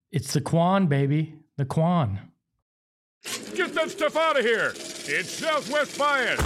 It's the Quan, baby. The Quan. Get that stuff out of here. It's Southwest Bias.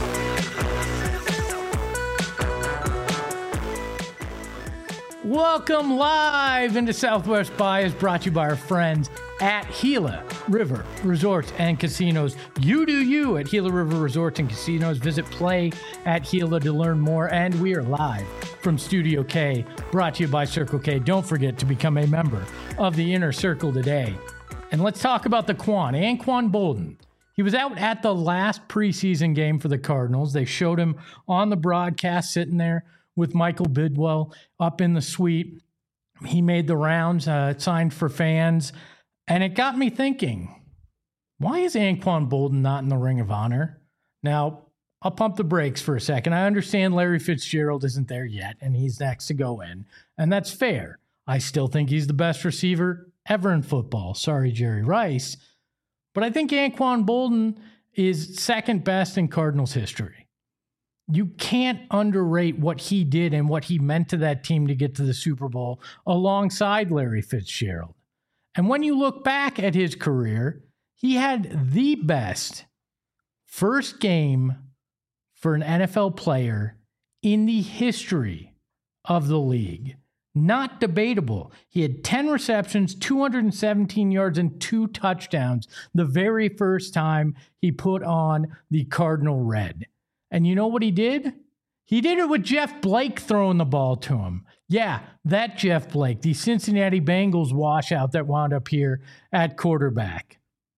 Welcome live into Southwest Bias, brought to you by our friends at Gila River Resorts and Casinos. You do you at Gila River Resorts and Casinos. Visit Play at Gila to learn more. And we are live from Studio K, brought to you by Circle K. Don't forget to become a member of the Inner Circle today. And let's talk about the Quan, Anquan Boldin. He was out at the last preseason game for the Cardinals. They showed him on the broadcast sitting there with Michael Bidwell up in the suite. He made the rounds, signed for fans. And it got me thinking, why is Anquan Boldin not in the Ring of Honor? Now, I'll pump the brakes for a second. I understand Larry Fitzgerald isn't there yet, and he's next to go in. And that's fair. I still think he's the best receiver ever in football. Sorry, Jerry Rice. But I think Anquan Boldin is second best in Cardinals history. You can't underrate what he did and what he meant to that team to get to the Super Bowl alongside Larry Fitzgerald. And when you look back at his career, he had the best first game for an NFL player in the history of the league. Not debatable. He had 10 receptions, 217 yards, and 2 touchdowns the very first time he put on the Cardinal red. And you know what he did? He did it with Jeff Blake throwing the ball to him. Yeah, that Jeff Blake, the Cincinnati Bengals washout that wound up here at quarterback.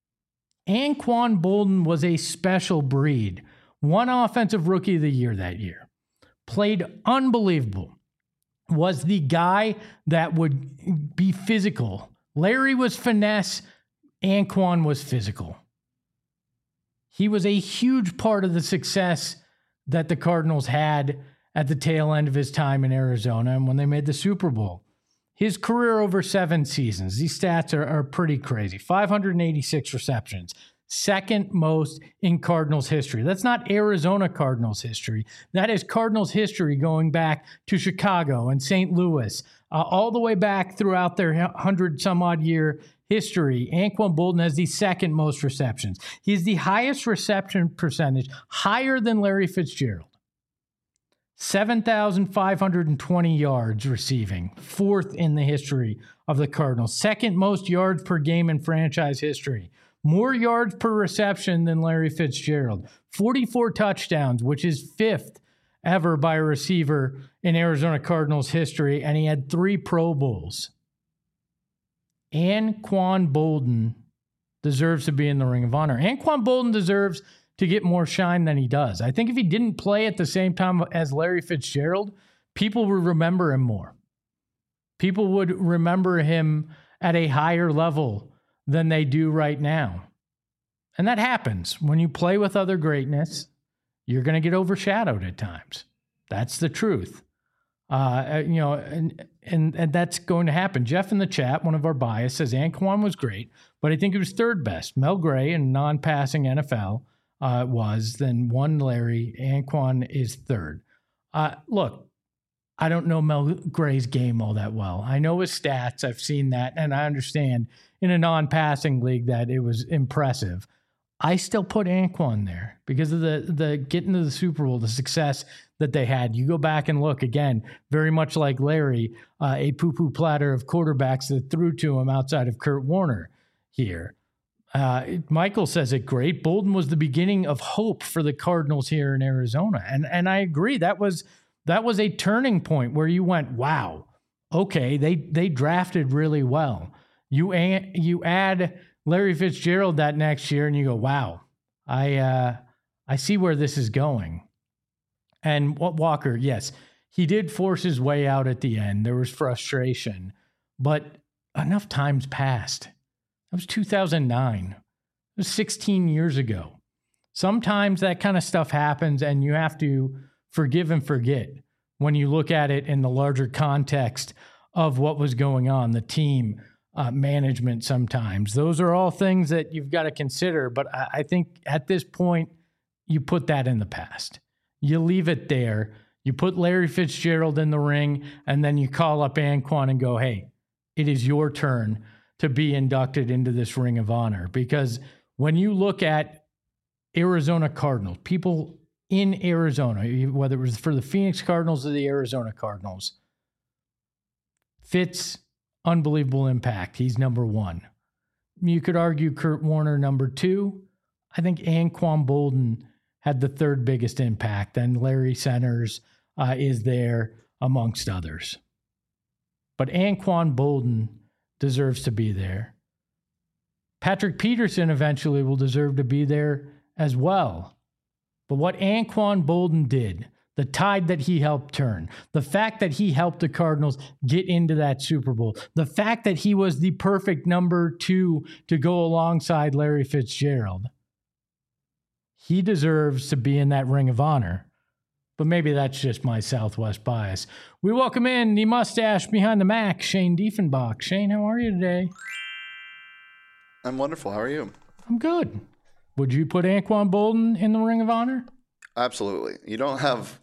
Anquan Boldin was a special breed. Won Offensive Rookie of the Year that year. Played unbelievable. Was the guy that would be physical. Larry was finesse. Anquan was physical. He was a huge part of the success that the Cardinals had at the tail end of his time in Arizona and when they made the Super Bowl. His career over 7 seasons, these stats are pretty crazy. 586 receptions, second most in Cardinals history. That's not Arizona Cardinals history. That is Cardinals history going back to Chicago and St. Louis, all the way back throughout their 100-some-odd year history. Anquan Boldin has the second most receptions. He's the highest reception percentage, higher than Larry Fitzgerald. 7,520 yards receiving, fourth in the history of the Cardinals. Second most yards per game in franchise history. More yards per reception than Larry Fitzgerald. 44 touchdowns, which is fifth ever by a receiver in Arizona Cardinals history, and he had 3 Pro Bowls. Anquan Boldin deserves to be in the Ring of Honor. Anquan Boldin deserves to get more shine than he does. I think if he didn't play at the same time as Larry Fitzgerald, people would remember him more. People would remember him at a higher level than they do right now. And that happens. When you play with other greatness, you're going to get overshadowed at times. That's the truth. And that's going to happen. Jeff in the chat, one of our bias, says Anquan was great, but I think he was third best. Mel Gray in non-passing NFL then one Larry. Anquan is third. Look, I don't know Mel Gray's game all that well. I know his stats. I've seen that, and I understand in a non-passing league that it was impressive. I still put Anquan there because of the getting to the Super Bowl, the success that they had. You go back and look again, very much like Larry, a poo-poo platter of quarterbacks that threw to him outside of Kurt Warner here. Michael says it great. Boldin was the beginning of hope for the Cardinals here in Arizona. And I agree. That was a turning point where you went, wow, okay, they drafted really well. You add Larry Fitzgerald that next year, and you go, wow, I see where this is going. And Walker, yes, he did force his way out at the end. There was frustration, but enough time's passed. That was 2009. It was 16 years ago. Sometimes that kind of stuff happens, and you have to forgive and forget when you look at it in the larger context of what was going on, the team, management sometimes. Those are all things that you've got to consider. But I think at this point, you put that in the past. You leave it there. You put Larry Fitzgerald in the ring, and then you call up Anquan and go, hey, it is your turn to be inducted into this Ring of Honor, because when you look at Arizona Cardinals, people in Arizona, whether it was for the Phoenix Cardinals or the Arizona Cardinals, Fitz, unbelievable impact. He's number one. You could argue Kurt Warner number two. I think Anquan Boldin had the third biggest impact, and Larry Centers is there amongst others. But Anquan Boldin deserves to be there. Patrick Peterson eventually will deserve to be there as well. But what Anquan Boldin did, the tide that he helped turn, the fact that he helped the Cardinals get into that Super Bowl, the fact that he was the perfect number two to go alongside Larry Fitzgerald, he deserves to be in that Ring of Honor. But maybe that's just my Southwest bias. We welcome in the mustache behind the Mac, Shane Diefenbach. Shane, how are you today? I'm wonderful. How are you? I'm good. Would you put Anquan Boldin in the Ring of Honor? Absolutely. You don't have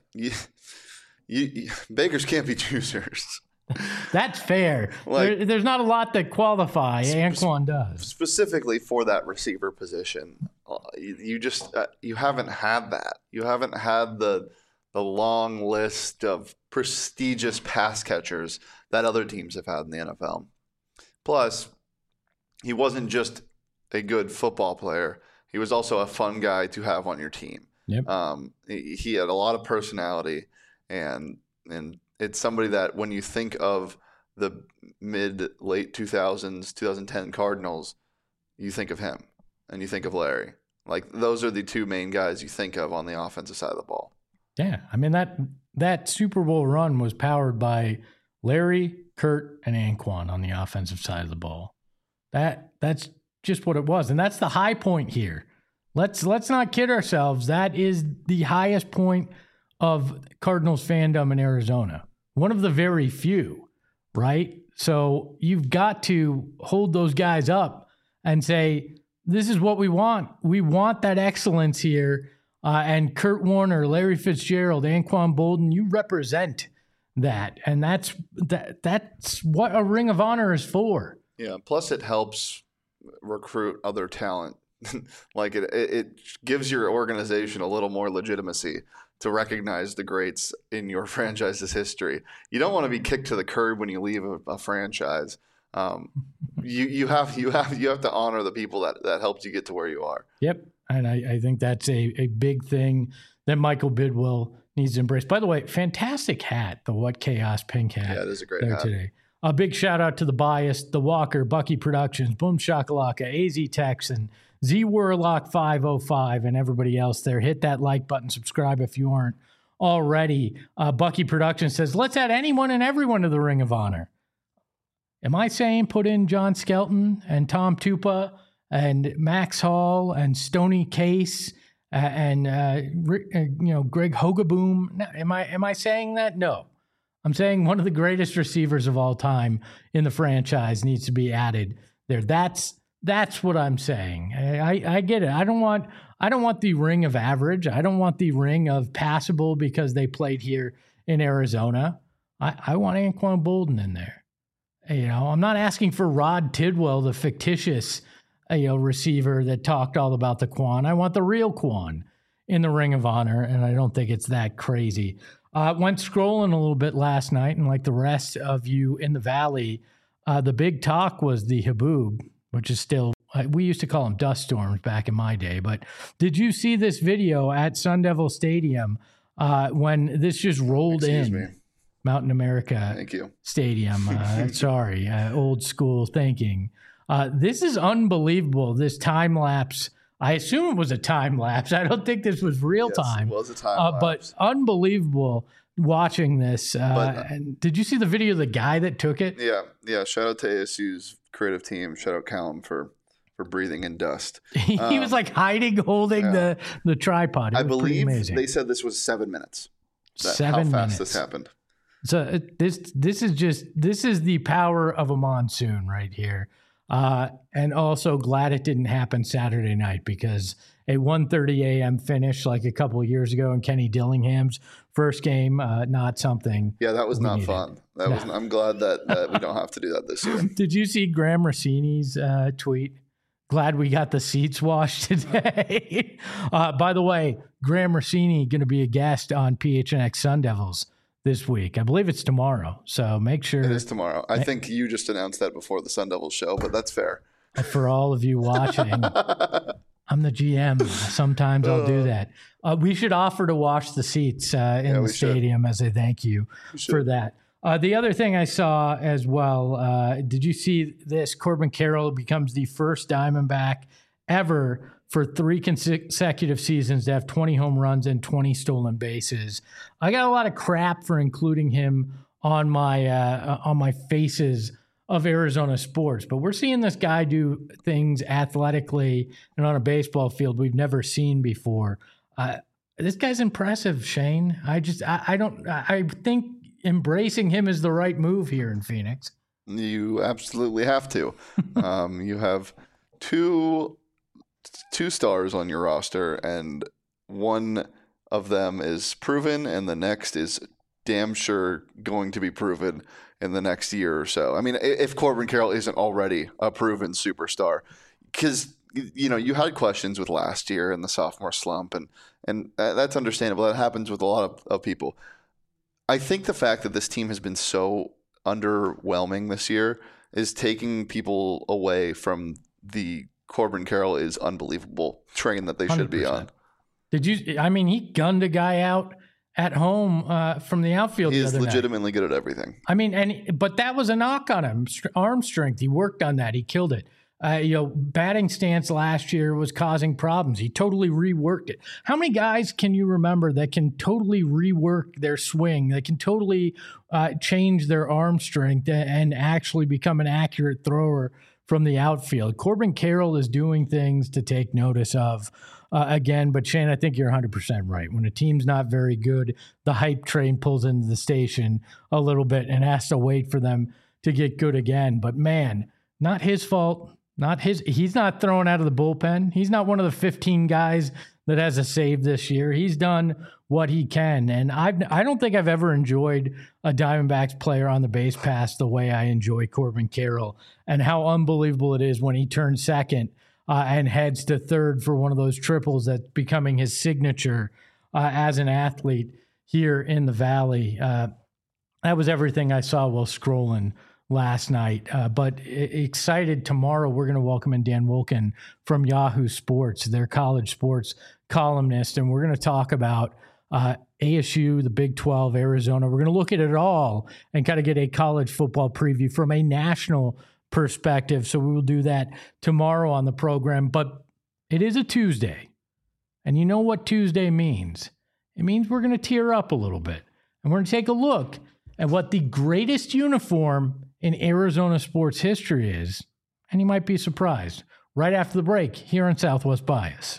beggars can't be choosers. That's fair. There's not a lot that qualify. Anquan does. Specifically for that receiver position, you just you haven't had that. You haven't had the long list of prestigious pass catchers that other teams have had in the NFL. Plus, he wasn't just a good football player. He was also a fun guy to have on your team. Yep. He had a lot of personality, and it's somebody that when you think of the late 2000s, 2010 Cardinals, you think of him and you think of Larry. Like, those are the two main guys you think of on the offensive side of the ball. Yeah. I mean, that Super Bowl run was powered by Larry, Kurt, and Anquan on the offensive side of the ball. That's just what it was. And that's the high point here. Let's not kid ourselves. That is the highest point of Cardinals fandom in Arizona. One of the very few, right? So you've got to hold those guys up and say, this is what we want. We want that excellence here. And Kurt Warner, Larry Fitzgerald, Anquan Boldin, you represent that. And that's what a Ring of Honor is for. Yeah. Plus, it helps recruit other talent. Like it gives your organization a little more legitimacy to recognize the greats in your franchise's history. You don't want to be kicked to the curb when you leave a franchise. You have to honor the people that helped you get to where you are. Yep, and I think that's a big thing that Michael Bidwill needs to embrace. By the way, fantastic hat, the What Chaos pink hat. Yeah, it is a great hat today. A big shout out to the Bias, the Walker, Bucky Productions, Boom Shakalaka, AZ Texan, Z Warlock 505, and everybody else there. Hit that like button, subscribe if you aren't already. Bucky Productions says, let's add anyone and everyone to the Ring of Honor. Am I saying put in John Skelton and Tom Tupa and Max Hall and Stoney Case and Greg Hogaboom? No, am I saying that? No. I'm saying one of the greatest receivers of all time in the franchise needs to be added there. That's what I'm saying. I get it. I don't want the ring of average. I don't want the ring of passable because they played here in Arizona. I want Anquan Boldin in there. I'm not asking for Rod Tidwell, the fictitious receiver that talked all about the Quan. I want the real Quan in the Ring of Honor, and I don't think it's that crazy. Went scrolling a little bit last night, and like the rest of you in the Valley, the big talk was the Haboob, which is still, we used to call them dust storms back in my day. But did you see this video at Sun Devil Stadium when this just rolled Excuse in? Me. Mountain America Thank you. Stadium. Sorry, old school thinking. This is unbelievable, this time lapse. I assume it was a time lapse. I don't think this was real time. It was a time lapse. But unbelievable watching this. And did you see the video of the guy that took it? Yeah. Shout out to ASU's creative team. Shout out Callum for breathing in dust. He was like hiding, holding the tripod. I believe they said this was 7 minutes. 7 minutes. How fast this happened. So this is the power of a monsoon right here. And also glad it didn't happen Saturday night, because a 1:30 a.m. finish like a couple of years ago in Kenny Dillingham's first game, not something. Yeah, that was not needed. fun. I'm glad that we don't have to do that this year. Did you see Graham Rossini's tweet? Glad we got the seats washed today. By the way, Graham Rossini going to be a guest on PHNX Sun Devils this week. I believe it's tomorrow. So make sure. It is tomorrow. I think you just announced that before the Sun Devils show, but that's fair. For all of you watching, I'm the GM. Sometimes I'll do that. We should offer to wash the seats in the stadium as a thank you for that. The other thing I saw as well, did you see this? Corbin Carroll becomes the first Diamondback ever for 3 consecutive seasons to have 20 home runs and 20 stolen bases. I got a lot of crap for including him on my faces of Arizona sports, but we're seeing this guy do things athletically and on a baseball field we've never seen before. This guy's impressive, Shane. I think embracing him is the right move here in Phoenix. You absolutely have to. You have two stars on your roster, and one of them is proven, and the next is damn sure going to be proven in the next year or so. I mean, if Corbin Carroll isn't already a proven superstar, because you had questions with last year and the sophomore slump, and that's understandable. That happens with a lot of people. I think the fact that this team has been so underwhelming this year is taking people away from the Corbin Carroll is unbelievable train that they should 100%. Be on. He gunned a guy out at home from the outfield. He is legitimately good at everything. But that was a knock on him. Arm strength. He worked on that. He killed it. Batting stance last year was causing problems. He totally reworked it. How many guys can you remember that can totally rework their swing? That can totally change their arm strength and actually become an accurate thrower from the outfield? Corbin Carroll is doing things to take notice of again. But Shane, I think you're 100% right. When a team's not very good, the hype train pulls into the station a little bit and has to wait for them to get good again. But man, not his fault. He's not thrown out of the bullpen. He's not one of the 15 guys that has a save this year. He's done what he can. And I don't think I've ever enjoyed a Diamondbacks player on the base pass the way I enjoy Corbin Carroll, and how unbelievable it is when he turns second and heads to third for one of those triples that's becoming his signature as an athlete here in the Valley. That was everything I saw while scrolling last night, but excited. Tomorrow we're going to welcome in Dan Wilkin from Sports, their college sports columnist, and we're going to talk about ASU, the Big 12, Arizona. We're going to look at it all and kind of get a college football preview from a national perspective. So we will do that tomorrow on the program, but it is a Tuesday, and you know what Tuesday means. It means we're going to tear up a little bit, and we're going to take a look at what the greatest uniform in Arizona sports history is, and you might be surprised. Right after the break here on Southwest Bias.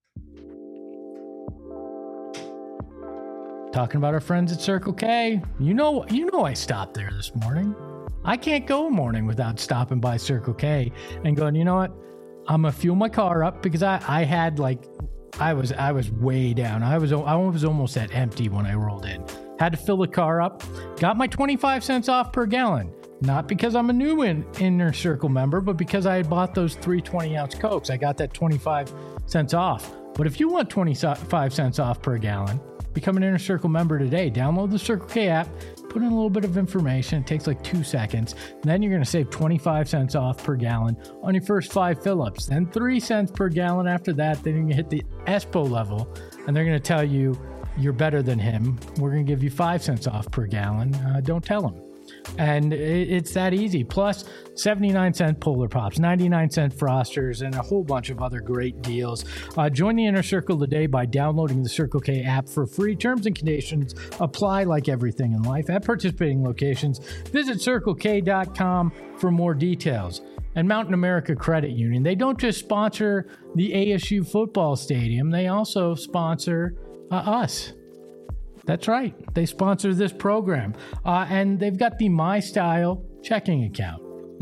Talking about our friends at Circle K. You know I stopped there this morning. I can't go a morning without stopping by Circle K and going, you know what? I'm going to fuel my car up, because I was way down. I was almost at empty when I rolled in. Had to fill the car up. Got my 25 cents off per gallon. Not because I'm a new Inner Circle member, but because I had bought those 3 20-ounce Cokes. I got that 25 cents off. But if you want 25 cents off per gallon, become an Inner Circle member today. Download the Circle K app, put in a little bit of information. It takes like 2 seconds. And then you're going to save 25 cents off per gallon on your first 5 fill-ups. Then 3 cents per gallon after that. Then you're going to hit the ESPO level, and they're going to tell you you're better than him. We're going to give you 5 cents off per gallon. Don't tell him. And it's that easy. Plus 79-cent Polar Pops, 99-cent Frosters, and a whole bunch of other great deals. Join the Inner Circle today by downloading the Circle K app for free. Terms and conditions apply like everything in life at participating locations. Visit CircleK.com for more details. And Mountain America Credit Union, they don't just sponsor the ASU football stadium, they also sponsor us. That's right. They sponsor this program. And they've got the MyStyle checking account.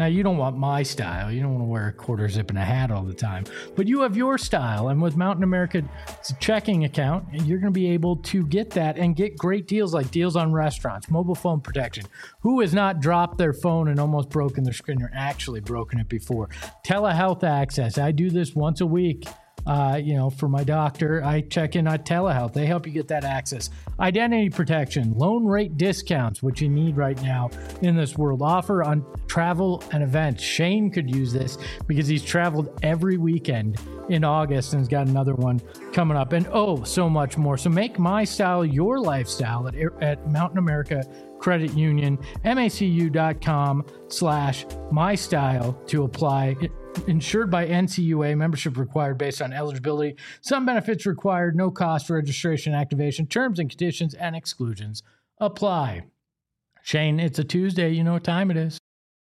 Now, you don't want my style. You don't want to wear a quarter zip and a hat all the time. But you have your style. And with Mountain America's checking account, you're going to be able to get that and get great deals like deals on restaurants, mobile phone protection. Who has not dropped their phone and almost broken their screen or actually broken it before? Telehealth access. I do this once a week. For my doctor, I check in on telehealth. They help you get that access. Identity protection, loan rate discounts, which you need right now in this world. Offer on travel and events. Shane could use this because he's traveled every weekend in August and has got another one coming up. And so much more. So make my style your lifestyle at Mountain America Credit Union, macu.com/mystyle to apply. Insured by NCUA, membership required based on eligibility. Some benefits required, no cost for registration and activation. Terms and conditions and exclusions apply. Shane, it's a Tuesday. You know what time it is.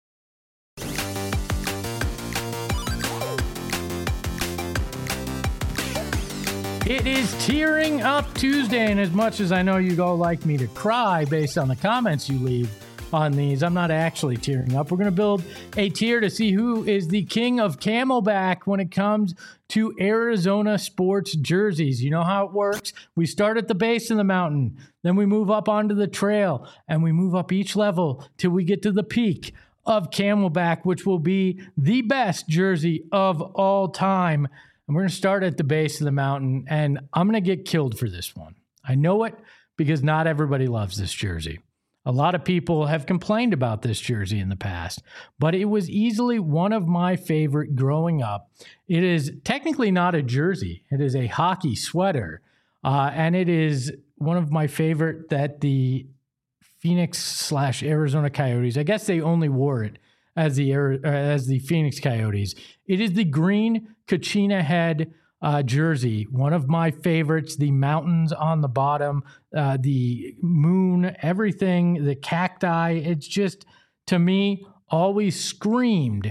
It is Tearing Up Tuesday, and as much as I know you all like me to cry based on the comments you leave on these, I'm not actually tearing up. We're going to build a tier to see who is the king of Camelback when it comes to Arizona sports jerseys. You know how it works. We start at the base of the mountain, then we move up onto the trail, and we move up each level till we get to the peak of Camelback, which will be the best jersey of all time. And we're going to start at the base of the mountain, and I'm going to get killed for this one. I know it because not everybody loves this jersey. A lot of people have complained about this jersey in the past, but it was easily one of my favorite growing up. It is technically not a jersey. It is a hockey sweater, and it is one of my favorite that the Phoenix/Arizona Coyotes, I guess they only wore it as the Phoenix Coyotes. It is the green Kachina head jersey, one of my favorites. The mountains on the bottom, the moon, everything, the cacti. It's just, to me, always screamed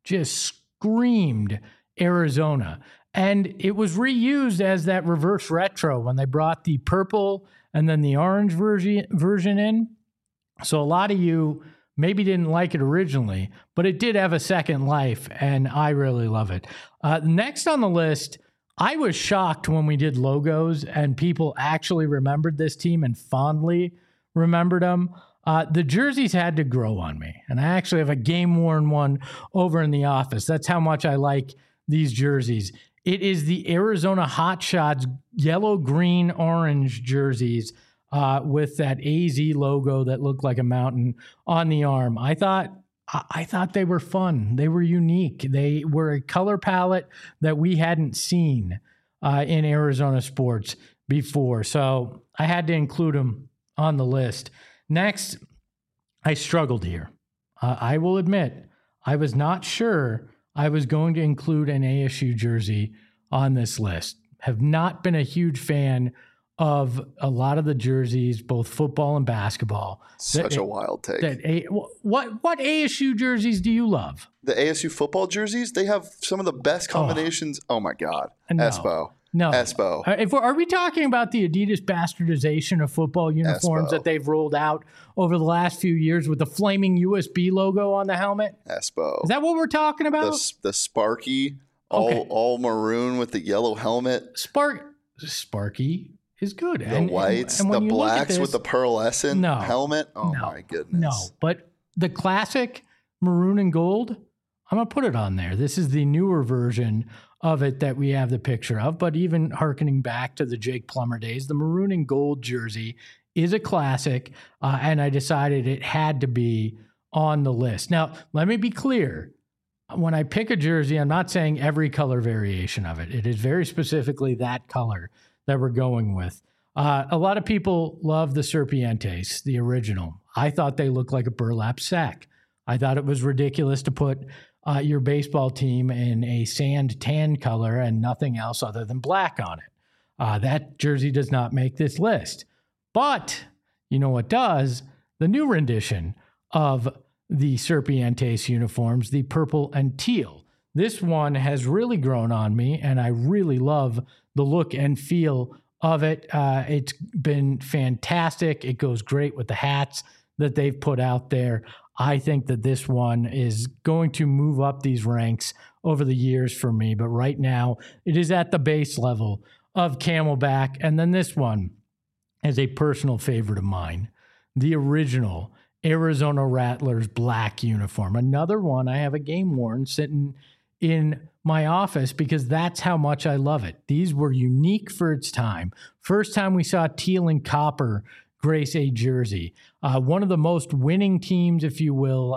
Arizona. And it was reused as that reverse retro when they brought the purple and then the orange version in. So a lot of you maybe didn't like it originally, but it did have a second life, and I really love it. Next on the list, I was shocked when we did logos and people actually remembered this team and fondly remembered them. The jerseys had to grow on me, and I actually have a game-worn one over in the office. That's how much I like these jerseys. It is the Arizona Hotshots yellow, green, orange jerseys with that AZ logo that looked like a mountain on the arm. I thought they were fun. They were unique. They were a color palette that we hadn't seen in Arizona sports before. So I had to include them on the list. Next, I struggled here. I will admit, I was not sure I was going to include an ASU jersey on this list. Have not been a huge fan of a lot of the jerseys, both football and basketball. Such a wild take. What ASU jerseys do you love? The ASU football jerseys, they have some of the best combinations. Oh my God. No. Espo. No. Espo. Are we talking about the Adidas bastardization of football uniforms Espo. that they've rolled out over the last few years with the flaming USB logo on the helmet? Espo. Is that what we're talking about? The Sparky, all maroon with the yellow helmet. Sparky is good. The whites, the blacks with the pearlescent helmet. Oh my goodness. No, but the classic maroon and gold, I'm going to put it on there. This is the newer version of it that we have the picture of, but even hearkening back to the Jake Plummer days, the maroon and gold jersey is a classic, and I decided it had to be on the list. Now, let me be clear. When I pick a jersey, I'm not saying every color variation of it. It is very specifically that color that we're going with. A lot of people love the Serpientes, the original. I thought they looked like a burlap sack. I thought it was ridiculous to put your baseball team in a sand tan color and nothing else other than black on it. That jersey does not make this list. But you know what does? The new rendition of the Serpientes uniforms, the purple and teal. This one has really grown on me, and I really love the look and feel of it. It's been fantastic. It goes great with the hats that they've put out there. I think that this one is going to move up these ranks over the years for me. But right now, it is at the base level of Camelback. And then this one is a personal favorite of mine, the original Arizona Rattlers black uniform. Another one I have a game worn sitting in my office because that's how much I love it. These were unique for its time. First time we saw teal and copper grace a jersey. One of the most winning teams, if you will,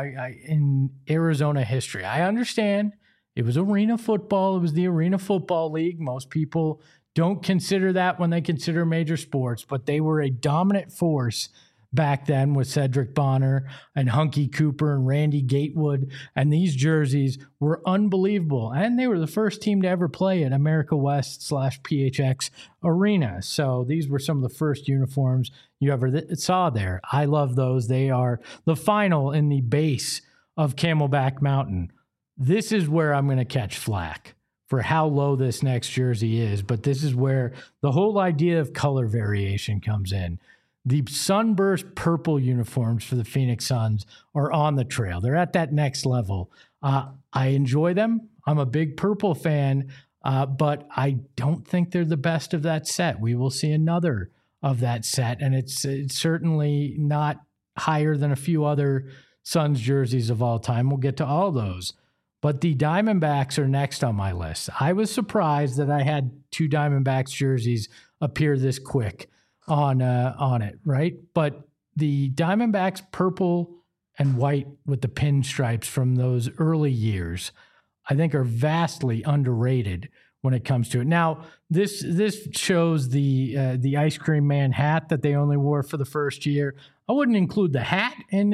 in Arizona history. I understand it was arena football. It was the Arena Football League. Most people don't consider that when they consider major sports, but they were a dominant force back then with Cedric Bonner and Hunky Cooper and Randy Gatewood. And these jerseys were unbelievable. And they were the first team to ever play at America West /PHX Arena. So these were some of the first uniforms you ever saw there. I love those. They are the final in the base of Camelback Mountain. This is where I'm going to catch flack for how low this next jersey is. But this is where the whole idea of color variation comes in. The sunburst purple uniforms for the Phoenix Suns are on the trail. They're at that next level. I enjoy them. I'm a big purple fan, but I don't think they're the best of that set. We will see another of that set, and it's certainly not higher than a few other Suns jerseys of all time. We'll get to all those. But the Diamondbacks are next on my list. I was surprised that I had two Diamondbacks jerseys appear this quick on it, right? But the Diamondbacks purple and white with the pinstripes from those early years, I think are vastly underrated when it comes to it. Now, this shows the Ice Cream Man hat that they only wore for the first year. I wouldn't include the hat in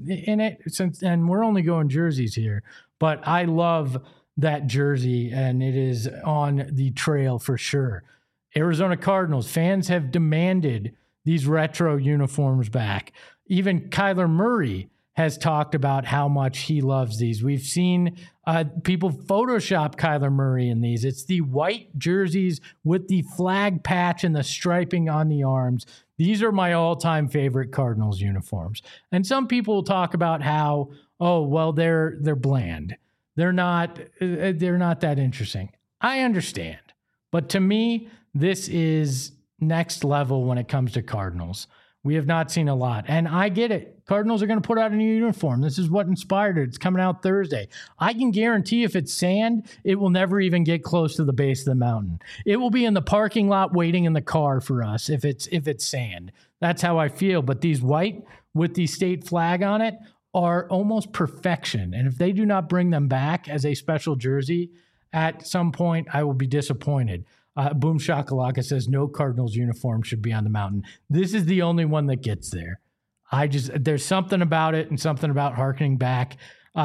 it, and we're only going jerseys here. But I love that jersey, and it is on the trail for sure. Arizona Cardinals fans have demanded these retro uniforms back. Even Kyler Murray has talked about how much he loves these. We've seen people Photoshop Kyler Murray in these. It's the white jerseys with the flag patch and the striping on the arms. These are my all-time favorite Cardinals uniforms. And some people will talk about how, oh, well, they're bland. They're not that interesting. I understand. But to me, this is next level when it comes to Cardinals. We have not seen a lot. And I get it. Cardinals are going to put out a new uniform. This is what inspired it. It's coming out Thursday. I can guarantee if it's sand, it will never even get close to the base of the mountain. It will be in the parking lot waiting in the car for us if it's sand. That's how I feel. But these white with the state flag on it are almost perfection. And if they do not bring them back as a special jersey at some point, I will be disappointed. Boom Shakalaka says no Cardinals uniform should be on the mountain. This is the only one that gets there. There's something about it and something about harkening back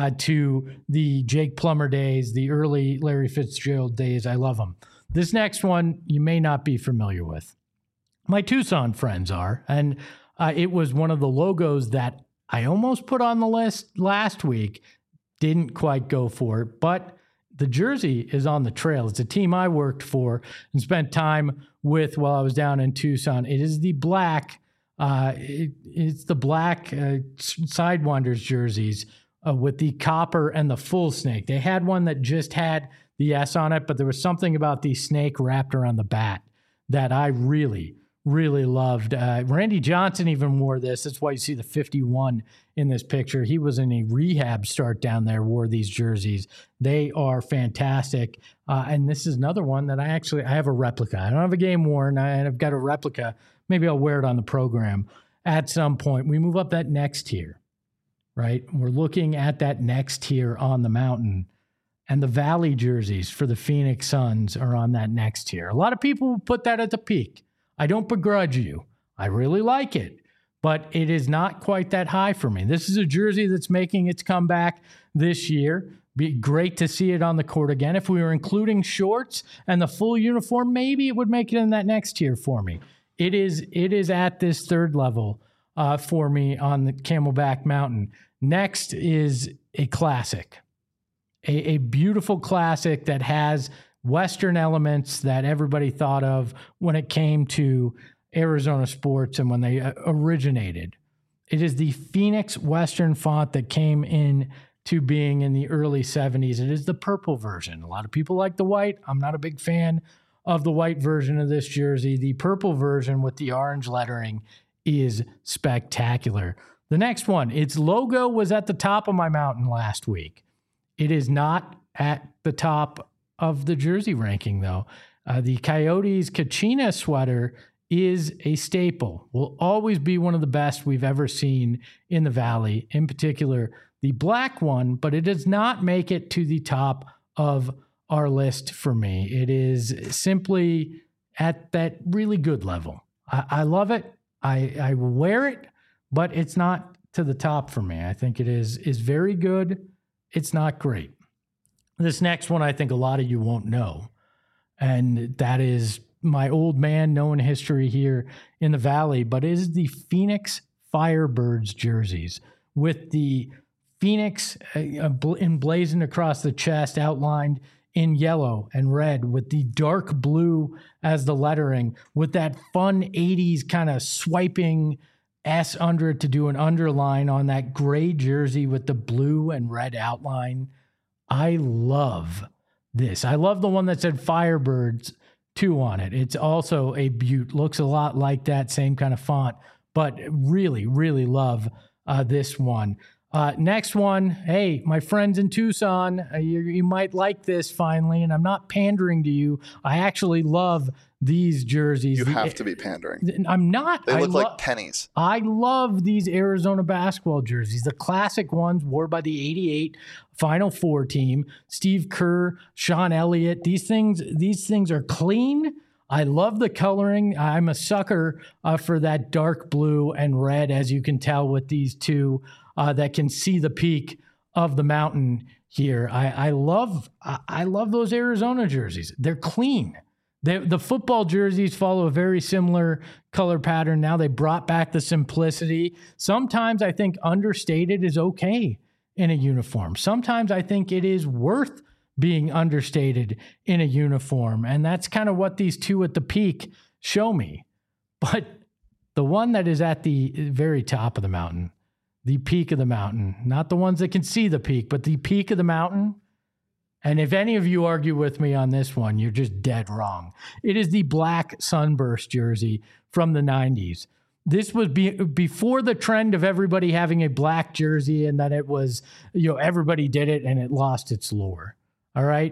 to the Jake Plummer days, the early Larry Fitzgerald days. I love them. This next one you may not be familiar with. My Tucson friends are, and it was one of the logos that I almost put on the list last week. Didn't quite go for it, but the jersey is on the trail. It's a team I worked for and spent time with while I was down in Tucson. It is the black, it's the black Sidewinders jerseys with the copper and the full snake. They had one that just had the S on it, but there was something about the snake wrapped around the bat that I really, really loved. Randy Johnson even wore this. That's why you see the 51 in this picture. He was in a rehab start down there, wore these jerseys. They are fantastic. And this is another one that I have a replica. I don't have a game worn. I've got a replica. Maybe I'll wear it on the program at some point. We move up that next tier, right? We're looking at that next tier on the mountain. And the Valley jerseys for the Phoenix Suns are on that next tier. A lot of people put that at the peak. I don't begrudge you. I really like it, but it is not quite that high for me. This is a jersey that's making its comeback this year. Be great to see it on the court again. If we were including shorts and the full uniform, maybe it would make it in that next tier for me. It is at this third level for me on the Camelback Mountain. Next is a classic, a beautiful classic that has Western elements that everybody thought of when it came to Arizona sports and when they originated. It is the Phoenix Western font that came in to being in the early 70s. It is the purple version. A lot of people like the white. I'm not a big fan of the white version of this jersey. The purple version with the orange lettering is spectacular. The next one, its logo was at the top of my mountain last week. It is not at the top of the jersey ranking, though. The Coyotes Kachina sweater is a staple, will always be one of the best we've ever seen in the Valley, in particular the black one, but it does not make it to the top of our list for me. It is simply at that really good level. I love it. I wear it, but it's not to the top for me. I think it is very good. It's not great. This next one, I think a lot of you won't know, and that is my old man knowing history here in the Valley, but it is the Phoenix Firebirds jerseys with the Phoenix emblazoned across the chest, outlined in yellow and red with the dark blue as the lettering, with that fun 80s kind of swiping S under it to do an underline on that gray jersey with the blue and red outline. I love this. I love the one that said Firebirds 2 on it. It's also a beaut. Looks a lot like that same kind of font, but really, really love this one. Next one, hey, my friends in Tucson, you might like this finally, and I'm not pandering to you. I actually love these jerseys. You have to be pandering. I'm not. They look like pennies. I love these Arizona basketball jerseys, the classic ones worn by the 88 Final Four team, Steve Kerr, Sean Elliott. These things are clean. I love the coloring. I'm a sucker for that dark blue and red, as you can tell with these two that can see the peak of the mountain here. I love those Arizona jerseys. They're clean. The football jerseys follow a very similar color pattern. Now they brought back the simplicity. Sometimes I think understated is okay in a uniform. Sometimes I think it is worth being understated in a uniform. And that's kind of what these two at the peak show me. But the one that is at the very top of the mountain, the peak of the mountain, not the ones that can see the peak, but the peak of the mountain. And if any of you argue with me on this one, you're just dead wrong. It is the black Sunburst jersey from the 90s. This was before the trend of everybody having a black jersey, and that it was, everybody did it and it lost its lure. All right.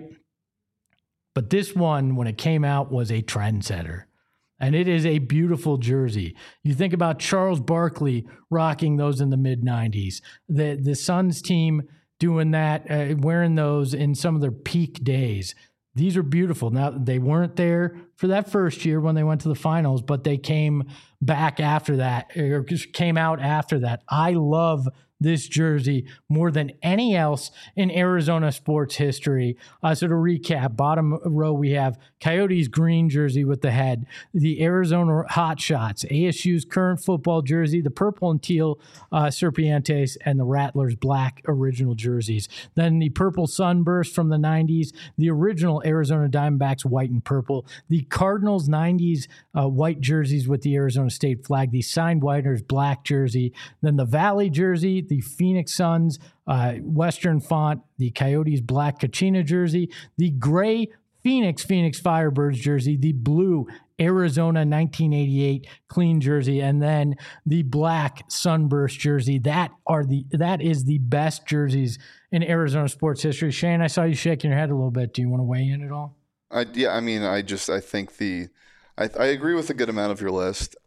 But this one, when it came out, was a trendsetter. And it is a beautiful jersey. You think about Charles Barkley rocking those in the mid-90s. The Suns team doing that, wearing those in some of their peak days. These are beautiful. Now, they weren't there for that first year when they went to the finals, but they came back after that, or just came out after that. I love this jersey more than any else in Arizona sports history. So to recap, bottom row, we have Coyotes green jersey with the head, the Arizona Hotshots, ASU's current football jersey, the purple and teal Serpientes, and the Rattlers black original jerseys. Then the purple Sunburst from the 90s, the original Arizona Diamondbacks white and purple, the Cardinals 90s white jerseys with the Arizona State flag, the signed Whiters black jersey, then the Valley jersey, the Phoenix Suns Western font, the Coyotes black Kachina jersey, the gray Phoenix Firebirds jersey, the blue Arizona 1988 clean jersey, and then the black Sunburst jersey. That is the best jerseys in Arizona sports history. Shane, I saw you shaking your head a little bit. Do you want to weigh in at all? I think I agree with a good amount of your list.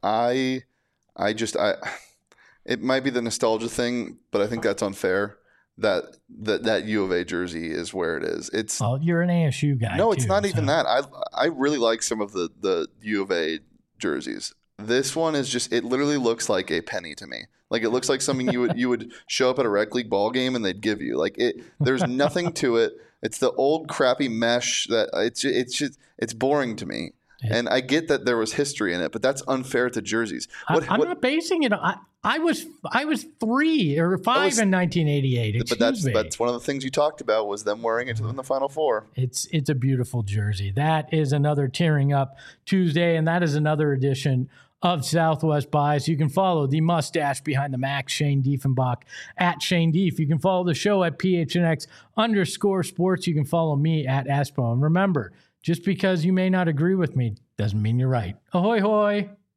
It might be the nostalgia thing, but I think that's unfair. That U of A jersey is where it is. You're an ASU guy. No, it's not even that. I really like some of the U of A jerseys. This one is just, it literally looks like a penny to me. Like, it looks like something you would show up at a rec league ball game and they'd give you. Like, there's nothing to it. It's the old crappy mesh that it's boring to me. And I get that there was history in it, but that's unfair to jerseys. I'm not basing it on. I was 3 or 5 in 1988. But that's one of the things you talked about was them wearing it in the Final Four. It's a beautiful jersey. That is another Tearing Up Tuesday, and that is another edition of Southwest Bias. You can follow the mustache behind the Max, Shane Diefenbach, at Shane Dief. You can follow the show at PHNX_sports. You can follow me at Espo. And remember, just because you may not agree with me doesn't mean you're right. Ahoy, hoy.